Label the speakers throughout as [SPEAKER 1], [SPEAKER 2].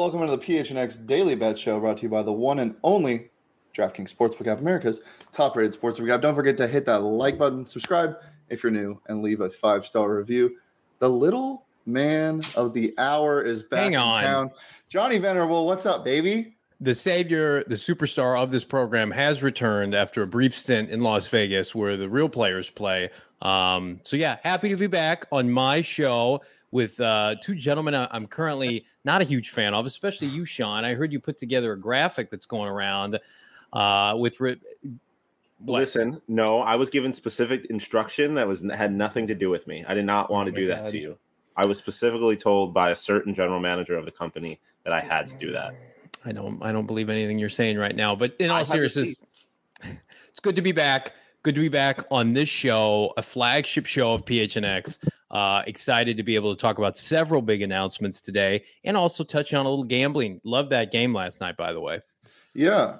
[SPEAKER 1] welcome into the PHNX Daily Bet Show, brought to you by the one and only DraftKings Sportsbook app, America's top-rated sportsbook app. Don't forget to hit that like button, subscribe if you're new, and leave a 5-star review. The little man of the hour is back in town. Johnny Venerable, what's up, baby?
[SPEAKER 2] The savior, the superstar of this program has returned after a brief stint in Las Vegas where the real players play. Happy to be back on my show with two gentlemen I'm currently not a huge fan of, especially you, Sean. I heard you put together a graphic that's going around with...
[SPEAKER 3] Listen, no, I was given specific instruction that had nothing to do with me. I did not want to do that to you. I was specifically told by a certain general manager of the company that I had to do that.
[SPEAKER 2] I don't believe anything you're saying right now, but in all seriousness, it's good to be back. Good to be back on this show, a flagship show of PHNX. Excited to be able to talk about several big announcements today and also touch on a little gambling. Love that game last night, by the way.
[SPEAKER 1] Yeah.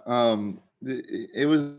[SPEAKER 1] It was.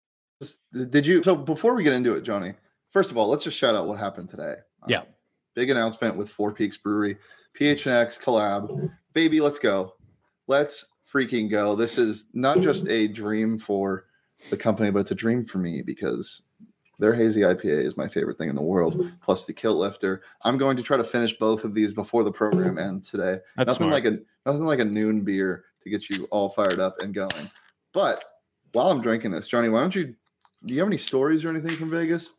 [SPEAKER 1] Did you? So before we get into it, Johnny, first of all, let's just shout out what happened today.
[SPEAKER 2] Yeah.
[SPEAKER 1] Big announcement with Four Peaks Brewery, PHNX collab. Baby, let's go. Let's freaking go. This is not just a dream for the company, but it's a dream for me because their hazy IPA is my favorite thing in the world, plus the Kilt Lifter. I'm going to try to finish both of these before the program ends today. Nothing like a noon beer to get you all fired up and going. But while I'm drinking this, Johnny, do you have any stories or anything from Vegas?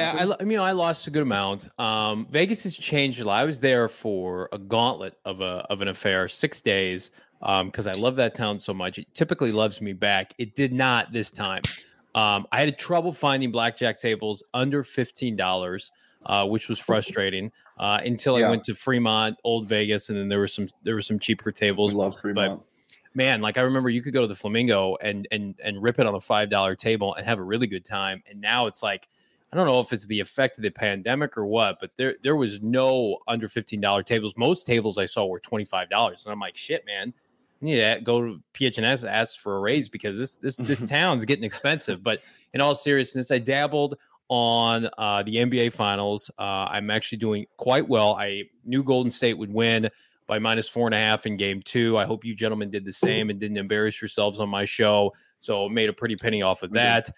[SPEAKER 2] I lost a good amount. Vegas has changed a lot. I was there for a gauntlet of an affair, 6 days, because I love that town so much. It typically loves me back. It did not this time. I had trouble finding blackjack tables under $15, which was frustrating until I went to Fremont, Old Vegas, and then there were some cheaper tables.
[SPEAKER 1] We love Fremont.
[SPEAKER 2] But, man, like I remember you could go to the Flamingo and rip it on a $5 table and have a really good time. And now it's like, I don't know if it's the effect of the pandemic or what, but there was no under $15 tables. Most tables I saw were $25. And I'm like, shit, man, I need to go to PHNS, ask for a raise because this town's getting expensive. But in all seriousness, I dabbled on the NBA Finals. I'm actually doing quite well. I knew Golden State would win by -4.5 in game 2. I hope you gentlemen did the same and didn't embarrass yourselves on my show. So made a pretty penny off of that.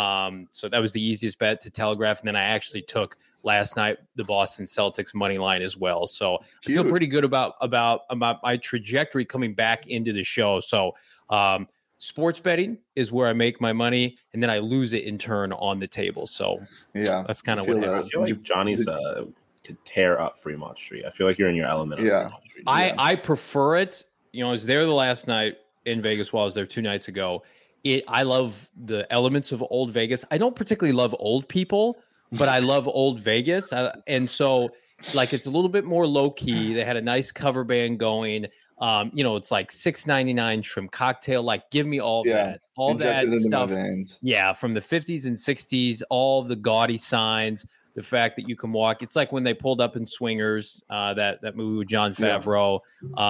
[SPEAKER 2] So that was the easiest bet to telegraph. And then I actually took last night the Boston Celtics money line as well. So I feel pretty good about my trajectory coming back into the show. So sports betting is where I make my money, and then I lose it in turn on the table. So
[SPEAKER 1] yeah,
[SPEAKER 2] that's kind of what happens.
[SPEAKER 3] I feel like Johnny's to tear up Fremont Street. I feel like you're in your element.
[SPEAKER 1] Yeah.
[SPEAKER 3] Fremont Street.
[SPEAKER 2] I prefer it. You know, I was there the last night in Vegas while I was there 2 nights ago. I love the elements of Old Vegas. I don't particularly love old people, but I love Old Vegas. And so, like, it's a little bit more low key. They had a nice cover band going. It's like $6.99 shrimp cocktail. Like, give me all that stuff. Yeah, from the 50s and 60s, all the gaudy signs. The fact that you can walk, it's like when they pulled up in Swingers, that movie with Jon Favreau.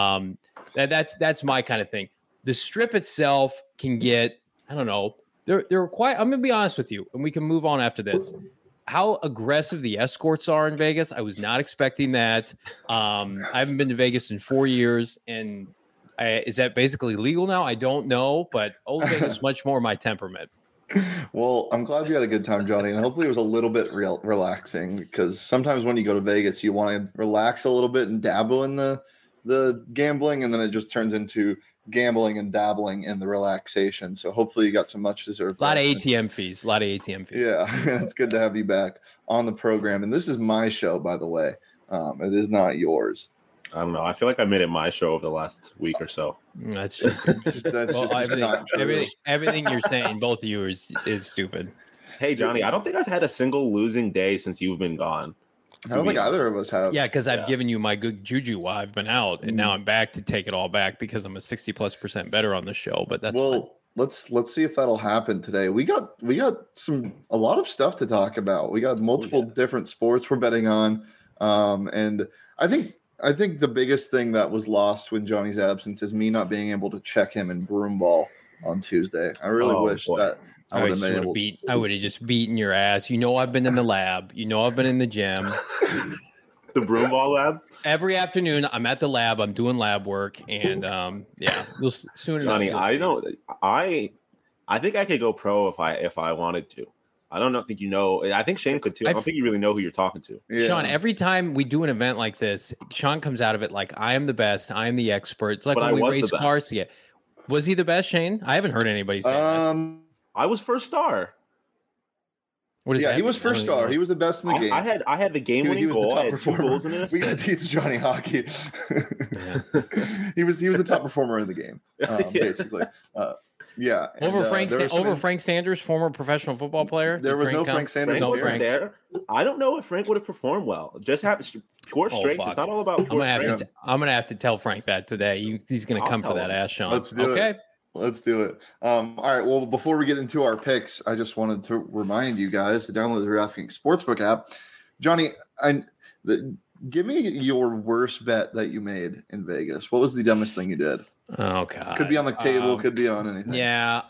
[SPEAKER 2] That's my kind of thing. The strip itself can get, I don't know, they're quite. I'm gonna be honest with you, and we can move on after this. How aggressive the escorts are in Vegas, I was not expecting that. I haven't been to Vegas in 4 years, and is that basically legal now? I don't know, but Old Vegas much more my temperament.
[SPEAKER 1] Well, I'm glad you had a good time, Johnny, and hopefully it was a little bit relaxing because sometimes when you go to Vegas, you want to relax a little bit and dabble in the gambling, and then it just turns into gambling and dabbling in the relaxation. So hopefully you got some much deserved.
[SPEAKER 2] A lot of ATM fees.
[SPEAKER 1] Yeah, it's good to have you back on the program. And this is my show, by the way. It is not yours.
[SPEAKER 3] I don't know. I feel like I made it my show over the last week or so.
[SPEAKER 2] That's just everything you're saying, both of you is stupid.
[SPEAKER 3] Hey, Johnny, I don't think I've had a single losing day since you've been gone.
[SPEAKER 1] I don't think either of us have.
[SPEAKER 2] Yeah, because I've given you my good juju while I've been out, and now I'm back to take it all back because I'm a 60+% better on the show. But that's fine.
[SPEAKER 1] Let's see if that'll happen today. We got a lot of stuff to talk about. We got multiple different sports we're betting on, and I think the biggest thing that was lost with Johnny's absence is me not being able to check him in broomball on Tuesday. I really wish that I would have been able.
[SPEAKER 2] I would have just beaten your ass. You know, I've been in the lab. You know, I've been in the gym.
[SPEAKER 3] The broom ball lab.
[SPEAKER 2] Every afternoon, I'm at the lab. I'm doing lab work, and you'll soon enough.
[SPEAKER 3] Johnny, I think I could go pro if I wanted to. I don't know. Think you know? I think Shane could too. I don't think you really know who you're talking to.
[SPEAKER 2] Yeah. Sean, every time we do an event like this, Sean comes out of it like, I am the best. I am the expert. It's like when we race cars together. Was he the best, Shane? I haven't heard anybody say that.
[SPEAKER 3] I was first star.
[SPEAKER 2] What is that?
[SPEAKER 1] He was first star. He was the best in the game.
[SPEAKER 3] I had the game-winning goal.
[SPEAKER 1] The top performer. We got to teach Johnny hockey. He was the top performer in the game, basically. Yeah.
[SPEAKER 2] Over Frank Sanders, former professional football player.
[SPEAKER 1] There was no Frank Sanders.
[SPEAKER 3] There. I don't know if Frank would have performed well. Just have pure strength. It's not all about.
[SPEAKER 2] I'm gonna have to tell Frank that today. He's gonna come for that ass, Sean.
[SPEAKER 1] Let's do it. Let's do it. All right. Well, before we get into our picks, I just wanted to remind you guys to download the DraftKings Sportsbook app. Johnny, give me your worst bet that you made in Vegas. What was the dumbest thing you did?
[SPEAKER 2] Oh God!
[SPEAKER 1] Could be on the table. Could be on anything.
[SPEAKER 2] Yeah,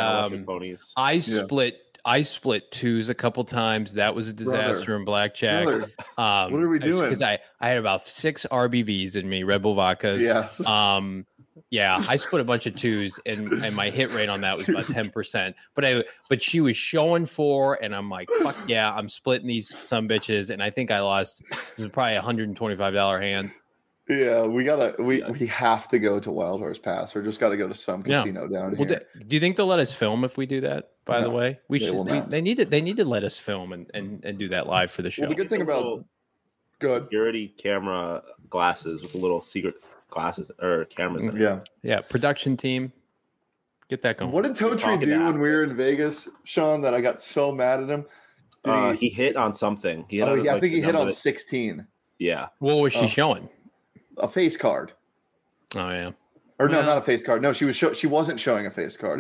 [SPEAKER 2] I split twos a couple times. That was a disaster in blackjack.
[SPEAKER 1] What are we doing?
[SPEAKER 2] Because I had about 6 RBVs in me, Red Bull vodkas.
[SPEAKER 1] Yeah.
[SPEAKER 2] Yeah, I split a bunch of twos, and my hit rate on that was about 10%. But she was showing 4, and I'm like, fuck yeah, I'm splitting these some bitches, and I think I lost. It was probably $125 hand.
[SPEAKER 1] Yeah, we have to go to Wild Horse Pass, or just got to go to some casino down here.
[SPEAKER 2] Do you think they'll let us film if we do that? By the way, they need to let us film and do that live for the show.
[SPEAKER 1] Well, the good thing about
[SPEAKER 3] security camera glasses with a little secret glasses or cameras in
[SPEAKER 1] it.
[SPEAKER 2] Yeah. Production team, get that going.
[SPEAKER 1] What did Totri do when we were in Vegas, Sean? That I got so mad at him.
[SPEAKER 3] He hit on something.
[SPEAKER 1] I think he hit on 16.
[SPEAKER 3] Yeah.
[SPEAKER 2] What was she showing?
[SPEAKER 1] A face card.
[SPEAKER 2] Oh yeah.
[SPEAKER 1] Or no, not a face card. No, she wasn't showing a face card.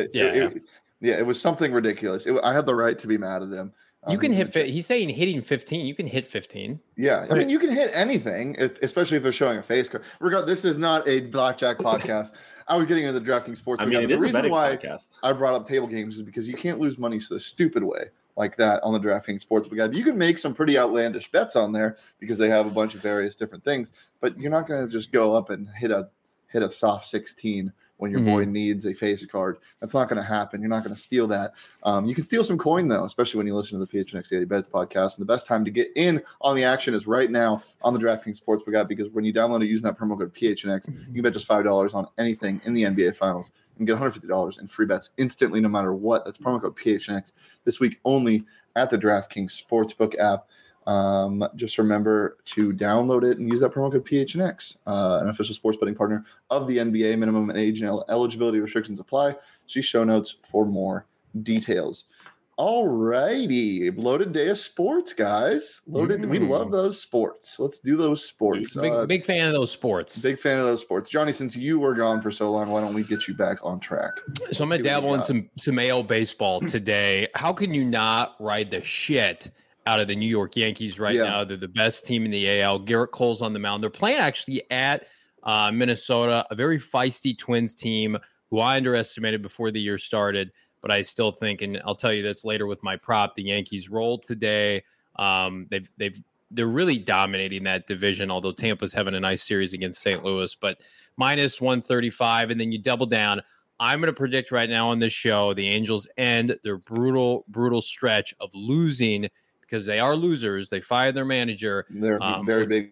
[SPEAKER 1] It was something ridiculous. I had the right to be mad at him.
[SPEAKER 2] You can hit. He's saying hitting 15. You can hit 15.
[SPEAKER 1] Yeah, I mean you can hit anything, especially if they're showing a face card. This is not a blackjack podcast. I was getting into the DraftKings Sports.
[SPEAKER 3] I mean, the reason why
[SPEAKER 1] I brought up table games is because you can't lose money so stupid way like that on the DraftKings Sportsbook app. You can make some pretty outlandish bets on there because they have a bunch of various different things, but you're not going to just go up and hit a soft 16 when your boy needs a face card. That's not going to happen. You're not going to steal that. You can steal some coin, though, especially when you listen to the PHNX Daily Bets podcast. And the best time to get in on the action is right now on the DraftKings Sportsbook app, because when you download it using that promo code PHNX, you can bet just $5 on anything in the NBA Finals and get $150 in free bets instantly, no matter what. That's promo code PHNX this week only at the DraftKings Sportsbook app. Just remember to download it and use that promo code PHNX, an official sports betting partner of the NBA. Minimum age and eligibility restrictions apply. See show notes for more details. All righty, loaded day of sports, guys. Loaded. We love those sports. Let's do those sports.
[SPEAKER 2] Big fan of those sports.
[SPEAKER 1] Big fan of those sports. Johnny, since you were gone for so long, why don't we get you back on track?
[SPEAKER 2] So I'm gonna dabble in some AL baseball today. How can you not ride the shit out of the New York Yankees right now? They're the best team in the AL. Garrett Cole's on the mound. They're playing actually at Minnesota, a very feisty Twins team who I underestimated before the year started. But I still think, and I'll tell you this later with my prop, the Yankees rolled today. They're really dominating that division, although Tampa's having a nice series against St. Louis. But minus 135, and then you double down. I'm going to predict right now on this show the Angels end their brutal stretch of losing, because they are losers. They fired their manager.
[SPEAKER 1] They're very big.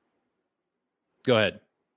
[SPEAKER 2] Go ahead.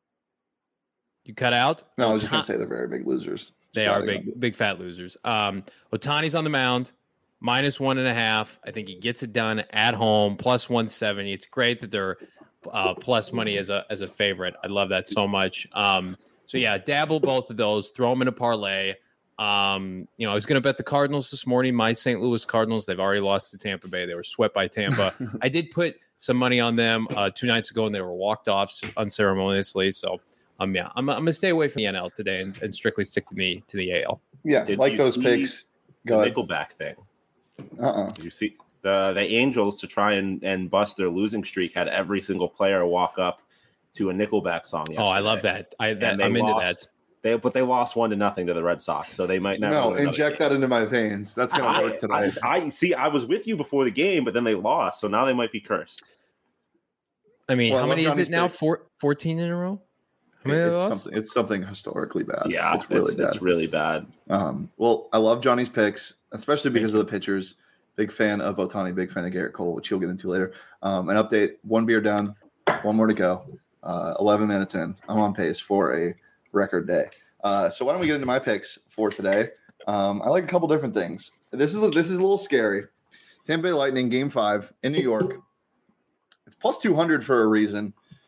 [SPEAKER 2] You cut out?
[SPEAKER 1] No, I was just going to say they're very big losers.
[SPEAKER 2] They are big fat losers. Ohtani's on the mound, minus 1.5. I think he gets it done at home, plus 170. It's great that they're plus money as a favorite. I love that so much. So yeah, dabble both of those. Throw them in a parlay. I was going to bet the Cardinals this morning. My St. Louis Cardinals. They've already lost to Tampa Bay. They were swept by Tampa. I did put some money on them 2 nights ago, and they were walked off unceremoniously. So. I'm gonna stay away from the NL today and strictly stick to the AL.
[SPEAKER 1] Yeah, like those picks.
[SPEAKER 3] Go ahead. Nickelback thing. You see the Angels, to try and bust their losing streak, had every single player walk up to a Nickelback song yesterday.
[SPEAKER 2] Oh, I love that. I'm into that.
[SPEAKER 3] But they lost 1-0 to the Red Sox, so they might never.
[SPEAKER 1] No, inject that into my veins. That's gonna work tonight.
[SPEAKER 3] I see. I was with you before the game, but then they lost, so now they might be cursed.
[SPEAKER 2] I mean,
[SPEAKER 1] Well,
[SPEAKER 2] how
[SPEAKER 1] I love
[SPEAKER 2] many is
[SPEAKER 1] Johnny's
[SPEAKER 2] it now?
[SPEAKER 1] pick.
[SPEAKER 2] 14 in a row? How many have they lost?
[SPEAKER 1] It's something historically bad.
[SPEAKER 3] Yeah,
[SPEAKER 1] it's really bad.
[SPEAKER 3] It's really bad.
[SPEAKER 1] Well, I love Johnny's picks, especially because
[SPEAKER 3] Thank
[SPEAKER 1] of the pitchers. Big fan of Ohtani, big fan of Garrett Cole, which you'll get into later. An update: 1 beer down, 1 more to go. 11 minutes in. I'm on pace for a record day. So why don't we get into my picks for today? I like a couple different things. This is a little scary. Tampa Bay Lightning Game 5 in New York. It's plus 200 for a reason.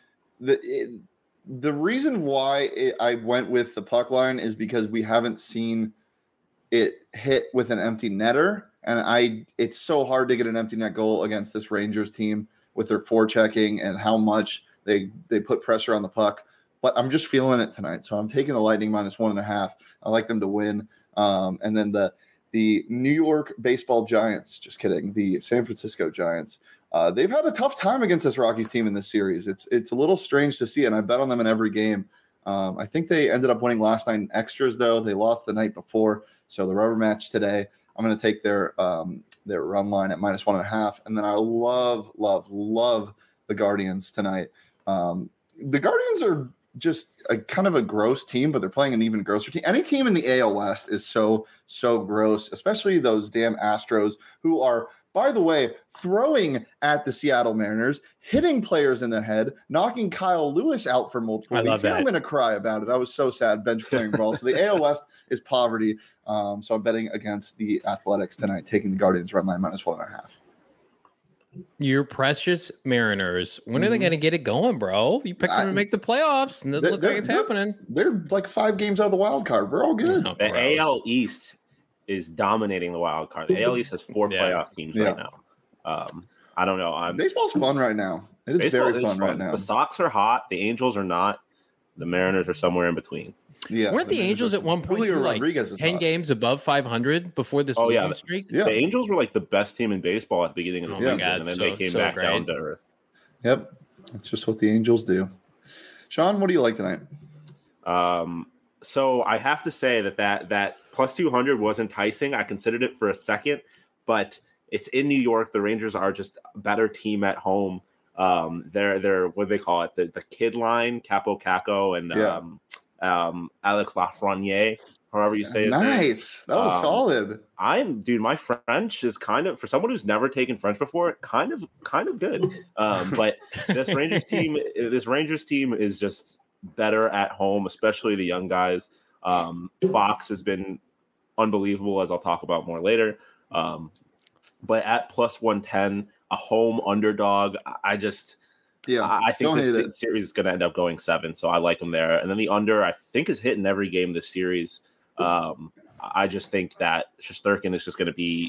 [SPEAKER 1] The reason why I went with the puck line is because we haven't seen it hit with an empty netter, and it's so hard to get an empty net goal against this Rangers team with their forechecking and how much they put pressure on the puck. But I'm just feeling it tonight, so I'm taking the Lightning minus 1.5. I like them to win. And then the New York Baseball Giants, just kidding, the San Francisco Giants. They've had a tough time against this Rockies team in this series. It's a little strange to see, and I bet on them in every game. I think they ended up winning last night in extras, though. They lost the night before, so the rubber match today. I'm going to take their run line at minus 1.5, and then I love the Guardians tonight. The Guardians are just a kind of a gross team, but they're playing an even grosser team. Any team in the AL West is so gross, especially those damn Astros, who are, by the way, throwing at the Seattle Mariners, hitting players in the head, knocking Kyle Lewis out for multiple weeks. I'm going to cry about it. I was so sad bench clearing ball. So the AL West is poverty. So I'm betting against the Athletics tonight, taking the Guardians run line minus 1.5.
[SPEAKER 2] Your precious Mariners. When are they going to get it going, bro? You picked them to make the playoffs, and it doesn't look like it's happening.
[SPEAKER 1] They're like 5 games out of the wild card. We're all good.
[SPEAKER 3] The AL East is dominating the wild card. The AL East has 4 playoff teams right now. I don't know.
[SPEAKER 1] Baseball's fun right now. It is very fun right now.
[SPEAKER 3] The Sox are hot. The Angels are not. The Mariners are somewhere in between.
[SPEAKER 2] Yeah, weren't the Angels at one point like 10 games above 500 before this losing streak?
[SPEAKER 3] Yeah. The Angels were like the best team in baseball at the beginning of the season, and then they came back down to earth.
[SPEAKER 1] Yep, that's just what the Angels do. Sean, what do you like tonight?
[SPEAKER 3] So I have to say that plus 200 was enticing. I considered it for a second, but it's in New York. The Rangers are just a better team at home. They're what do they call it? The kid line, Capo Caco and Alex Lafreniere, however you say it.
[SPEAKER 1] Nice. That was solid.
[SPEAKER 3] My French is kind of, for someone who's never taken French before, kind of good. But this Rangers team is just better at home, especially the young guys. Fox has been unbelievable, as I'll talk about more later. But at plus 110, a home underdog, I think this series is going to end up going 7, so I like them there. And then the under, I think, is hitting every game this series. I just think that Shesterkin is just going to be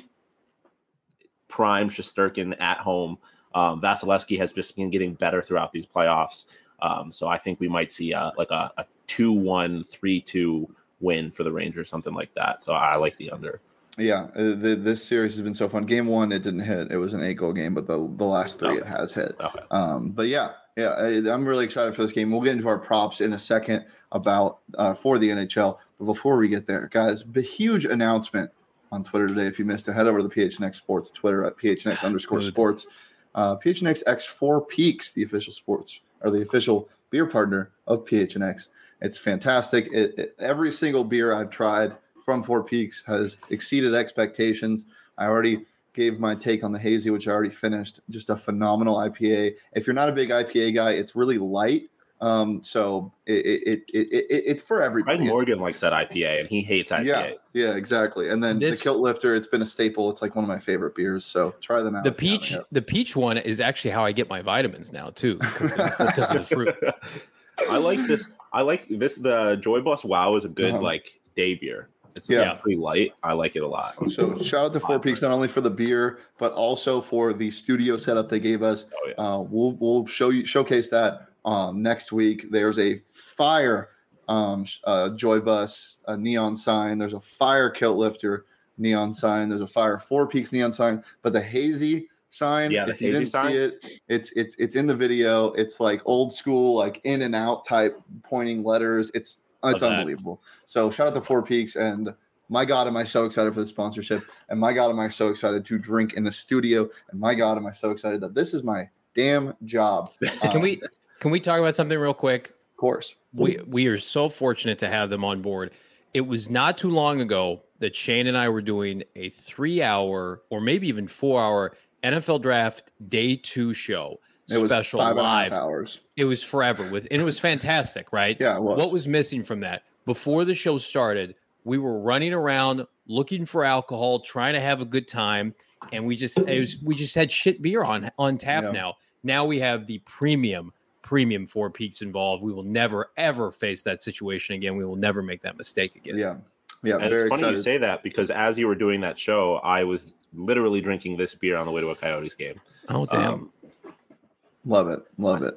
[SPEAKER 3] prime Shesterkin at home. Vasilevsky has just been getting better throughout these playoffs. So I think we might see a 2-1, 3-2 win for the Rangers, something like that. So I like the under.
[SPEAKER 1] Yeah, this series has been so fun. Game 1, it didn't hit. It was an 8-goal game, but the last 3 it has hit. Okay. But I'm really excited for this game. We'll get into our props in a second about for the NHL. But before we get there, guys, a huge announcement on Twitter today. If you missed it, head over to the PHNX Sports Twitter at PHNX_sports. PHNX X4 Peaks, the official beer partner of PHNX. It's fantastic. Every single beer I've tried from Four Peaks has exceeded expectations. I already gave my take on the hazy, which I already finished. Just a phenomenal IPA. If you're not a big IPA guy, it's really light. So it's for everybody.
[SPEAKER 3] Craig Morgan likes that IPA, and he hates IPA.
[SPEAKER 1] Yeah, exactly. And then the Kilt Lifter, it's been a staple. It's like one of my favorite beers. So try them out.
[SPEAKER 2] The peach one is actually how I get my vitamins now too, because of the fruit.
[SPEAKER 3] I like this. The Joy Bus Wow is a good day beer. It's pretty light. I like it a lot.
[SPEAKER 1] So shout out to Four Peaks, not only for the beer, but also for the studio setup they gave us. We'll showcase that next week. There's a fire Joy Bus neon sign. There's a fire Kilt Lifter neon sign. There's a fire Four Peaks neon sign. But the hazy sign, if you didn't see it, it's in the video. It's like old school, like in and out type pointing letters. It's unbelievable. So shout out to Four Peaks, and my God, am I so excited for the sponsorship, and my God, am I so excited to drink in the studio, and my God, am I so excited that this is my damn job.
[SPEAKER 2] Can we talk about something real quick?
[SPEAKER 1] Of course.
[SPEAKER 2] We are so fortunate to have them on board. It was not too long ago that Shane and I were doing a 3-hour or maybe even 4-hour NFL Draft Day 2 show.
[SPEAKER 1] It was
[SPEAKER 2] special
[SPEAKER 1] 5.5
[SPEAKER 2] live.
[SPEAKER 1] hours.
[SPEAKER 2] It was forever and it was fantastic, right?
[SPEAKER 1] Yeah, it was.
[SPEAKER 2] What was missing from that? Before the show started, we were running around looking for alcohol, trying to have a good time, and we just had shit beer on tap now. Now we have the premium Four Peaks involved. We will never ever face that situation again. We will never make that mistake again.
[SPEAKER 1] Yeah.
[SPEAKER 3] And it's funny you say that because as you were doing that show, I was literally drinking this beer on the way to a Coyotes game.
[SPEAKER 2] Oh damn.
[SPEAKER 1] Love it.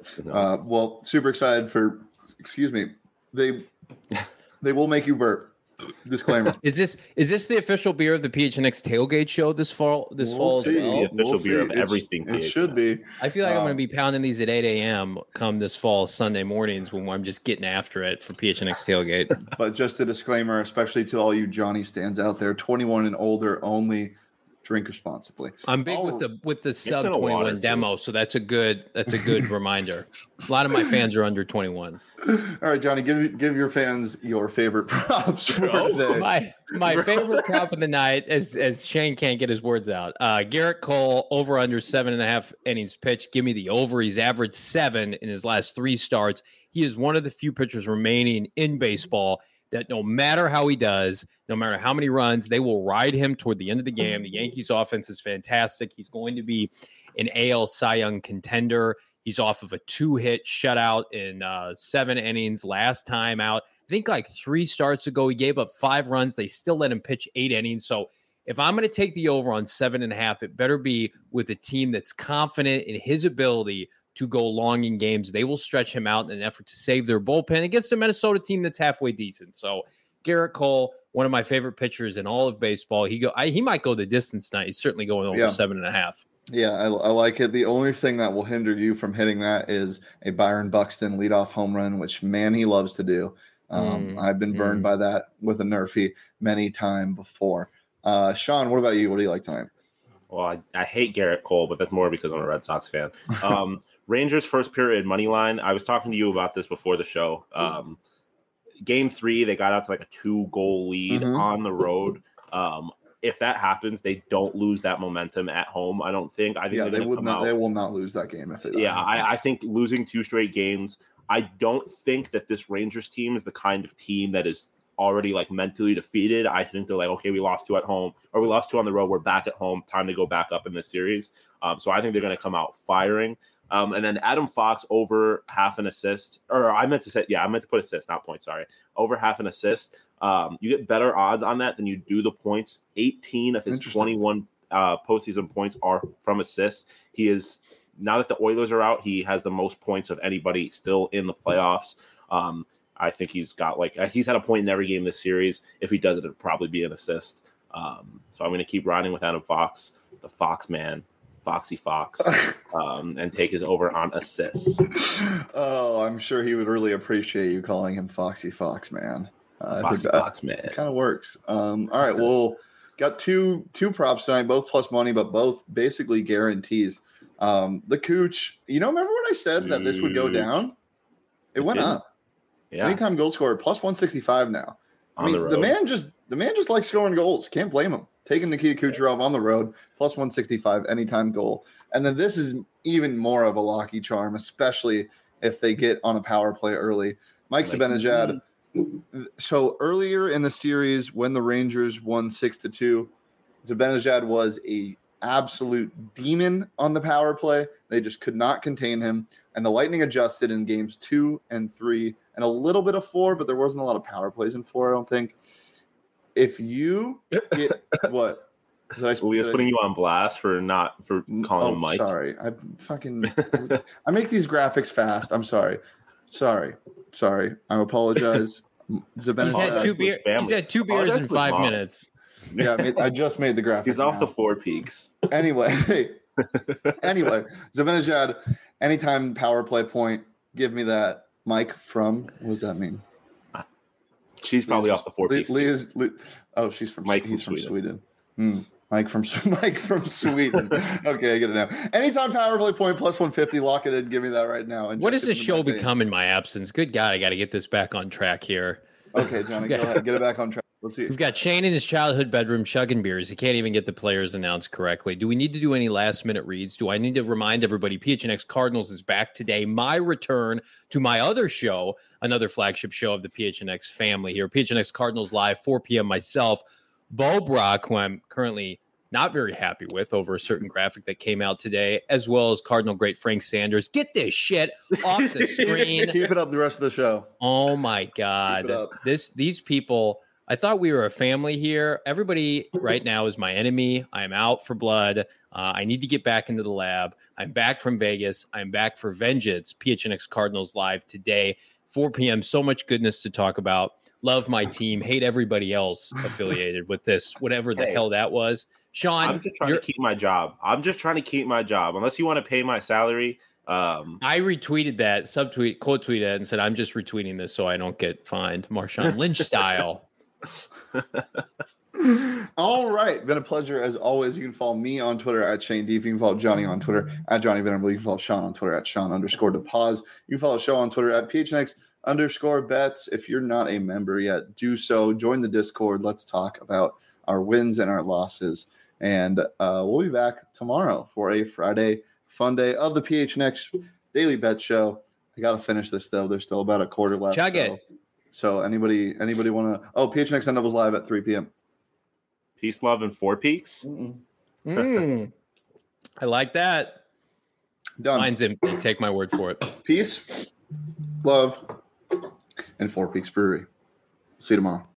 [SPEAKER 1] Well, super excited for. Excuse me. They will make you burp. Disclaimer.
[SPEAKER 2] Is this the official beer of the PHNX tailgate show this fall?
[SPEAKER 1] We'll see.
[SPEAKER 3] The official beer of everything.
[SPEAKER 1] It should be.
[SPEAKER 2] I feel like I'm going to be pounding these at 8 a.m. come this fall Sunday mornings when I'm just getting after it for PHNX tailgate.
[SPEAKER 1] But just a disclaimer, especially to all you Johnny stands out there, 21 and older only. Drink responsibly.
[SPEAKER 2] I'm big with the sub 21 demo, so that's a good reminder. A lot of my fans are under 21.
[SPEAKER 1] All right, Johnny, give your fans your favorite props for today.
[SPEAKER 2] My favorite prop of the night, as Shane can't get his words out. Garrett Cole over under 7.5 innings pitched. Give me the over. He's averaged 7 in his last 3 starts. He is one of the few pitchers remaining in baseball that no matter how he does, no matter how many runs, they will ride him toward the end of the game. The Yankees offense is fantastic. He's going to be an AL Cy Young contender. He's off of a 2-hit shutout in 7 innings last time out. I think like 3 starts ago, he gave up 5 runs. They still let him pitch 8 innings. So if I'm going to take the over on 7.5, it better be with a team that's confident in his ability to go long in games. They will stretch him out in an effort to save their bullpen against a Minnesota team that's halfway decent. So Garrett Cole, one of my favorite pitchers in all of baseball. He might go the distance tonight. He's certainly going over 7.5.
[SPEAKER 1] Yeah, I like it. The only thing that will hinder you from hitting that is a Byron Buxton leadoff home run, which, man, he loves to do. I've been burned by that with a Nerfy many times before. Sean, what about you? What do you like tonight?
[SPEAKER 3] Well, I hate Garrett Cole, but that's more because I'm a Red Sox fan. Rangers first period money line. I was talking to you about this before the show. Game 3, they got out to like a 2-goal lead on the road. If that happens, they don't lose that momentum at home. I don't think. I think
[SPEAKER 1] they will not lose that game if it.
[SPEAKER 3] I think losing 2 straight games. I don't think that this Rangers team is the kind of team that is already like mentally defeated. I think they're like, okay, we lost 2 at home, or we lost 2 on the road. We're back at home. Time to go back up in this series. So I think they're going to come out firing. And then Adam Fox over half an assist, or I meant to put assist, not points. Sorry, over half an assist. You get better odds on that than you do the points. 18 of his 21 postseason points are from assists. He is, now that the Oilers are out, he has the most points of anybody still in the playoffs. I think he's had a point in every game this series. If he does it, it'll probably be an assist. So I'm going to keep riding with Adam Fox, the Fox man. Foxy Fox, and take his over on assists.
[SPEAKER 1] Oh, I'm sure he would really appreciate you calling him Foxy Fox, man.
[SPEAKER 3] Foxy Fox, man.
[SPEAKER 1] Kind of works. All right, well, got two props tonight, both plus money, but both basically guarantees. The Cooch, remember when I said that this would go down? It went up. Yeah. Anytime goal scorer, plus 165 now. The man just likes scoring goals. Can't blame him. Taking Nikita Kucherov on the road, plus 165 anytime goal. And then this is even more of a lucky charm, especially if they get on a power play early. Mike Zibanejad. So earlier in the series, when the Rangers won 6-2, Zibanejad was a absolute demon on the power play. They just could not contain him. And the Lightning adjusted in games 2 and 3 and a little bit of 4, but there wasn't a lot of power plays in 4, I don't think. If you get what?
[SPEAKER 3] We was putting you on blast for calling him Mike.
[SPEAKER 1] Sorry. I make these graphics fast. I'm sorry. I apologize.
[SPEAKER 2] He's had 2 beers in 5 minutes.
[SPEAKER 1] Yeah, I just made the graphic.
[SPEAKER 3] He's off the 4 Peaks.
[SPEAKER 1] Anyway, Zibanejad, anytime power play point, give me that. Mike from, what does that mean?
[SPEAKER 3] She's probably off the 4 Peaks.
[SPEAKER 1] She's from Sweden. Mike from Sweden. Okay, I get it now. Anytime power play point plus 150, lock it in. Give me that right now. And
[SPEAKER 2] what does this show become in my absence? Good God, I got to get this back on track here.
[SPEAKER 1] Okay, Johnny, go ahead. Get it back on track. Let's see.
[SPEAKER 2] We've got Shane in his childhood bedroom chugging beers. He can't even get the players announced correctly. Do we need to do any last-minute reads? Do I need to remind everybody PHNX Cardinals is back today? My return to my other show, another flagship show of the PHNX family here. PHNX Cardinals Live, 4 p.m. Myself, Bo Brock, who I'm currently not very happy with over a certain graphic that came out today, as well as Cardinal great Frank Sanders. Get this shit off the screen.
[SPEAKER 1] Keep it up the rest of the show.
[SPEAKER 2] Oh, my God. These people... I thought we were a family here. Everybody right now is my enemy. I am out for blood. I need to get back into the lab. I'm back from Vegas. I'm back for vengeance. PHNX Cardinals Live today, 4 p.m. So much goodness to talk about. Love my team. Hate everybody else affiliated with this, whatever the hell that was. Sean,
[SPEAKER 3] I'm just trying to keep my job. Unless you want to pay my salary.
[SPEAKER 2] I retweeted that, quote tweeted it, and said, I'm just retweeting this so I don't get fined. Marshawn Lynch style.
[SPEAKER 1] All right. Been a pleasure as always. You can follow me on Twitter at Shane Deef. You can follow Johnny on Twitter at Johnny Venerable. You can follow Sean on Twitter at Sean_DePause. You can follow the show on Twitter at PHNX_bets. If you're not a member yet, do so. Join the Discord. Let's talk about our wins and our losses. And we'll be back tomorrow for a Friday fun day of the PHNX Daily Bet Show. I got to finish this, though. There's still about a quarter left.
[SPEAKER 2] Chug it.
[SPEAKER 1] So anybody want to? Oh, PHNX Sun Devils Live at 3 p.m.
[SPEAKER 3] Peace, love, and Four Peaks.
[SPEAKER 2] I like that.
[SPEAKER 1] Done.
[SPEAKER 2] Mine's empty. Take my word for it.
[SPEAKER 1] Peace, love, and Four Peaks Brewery. See you tomorrow.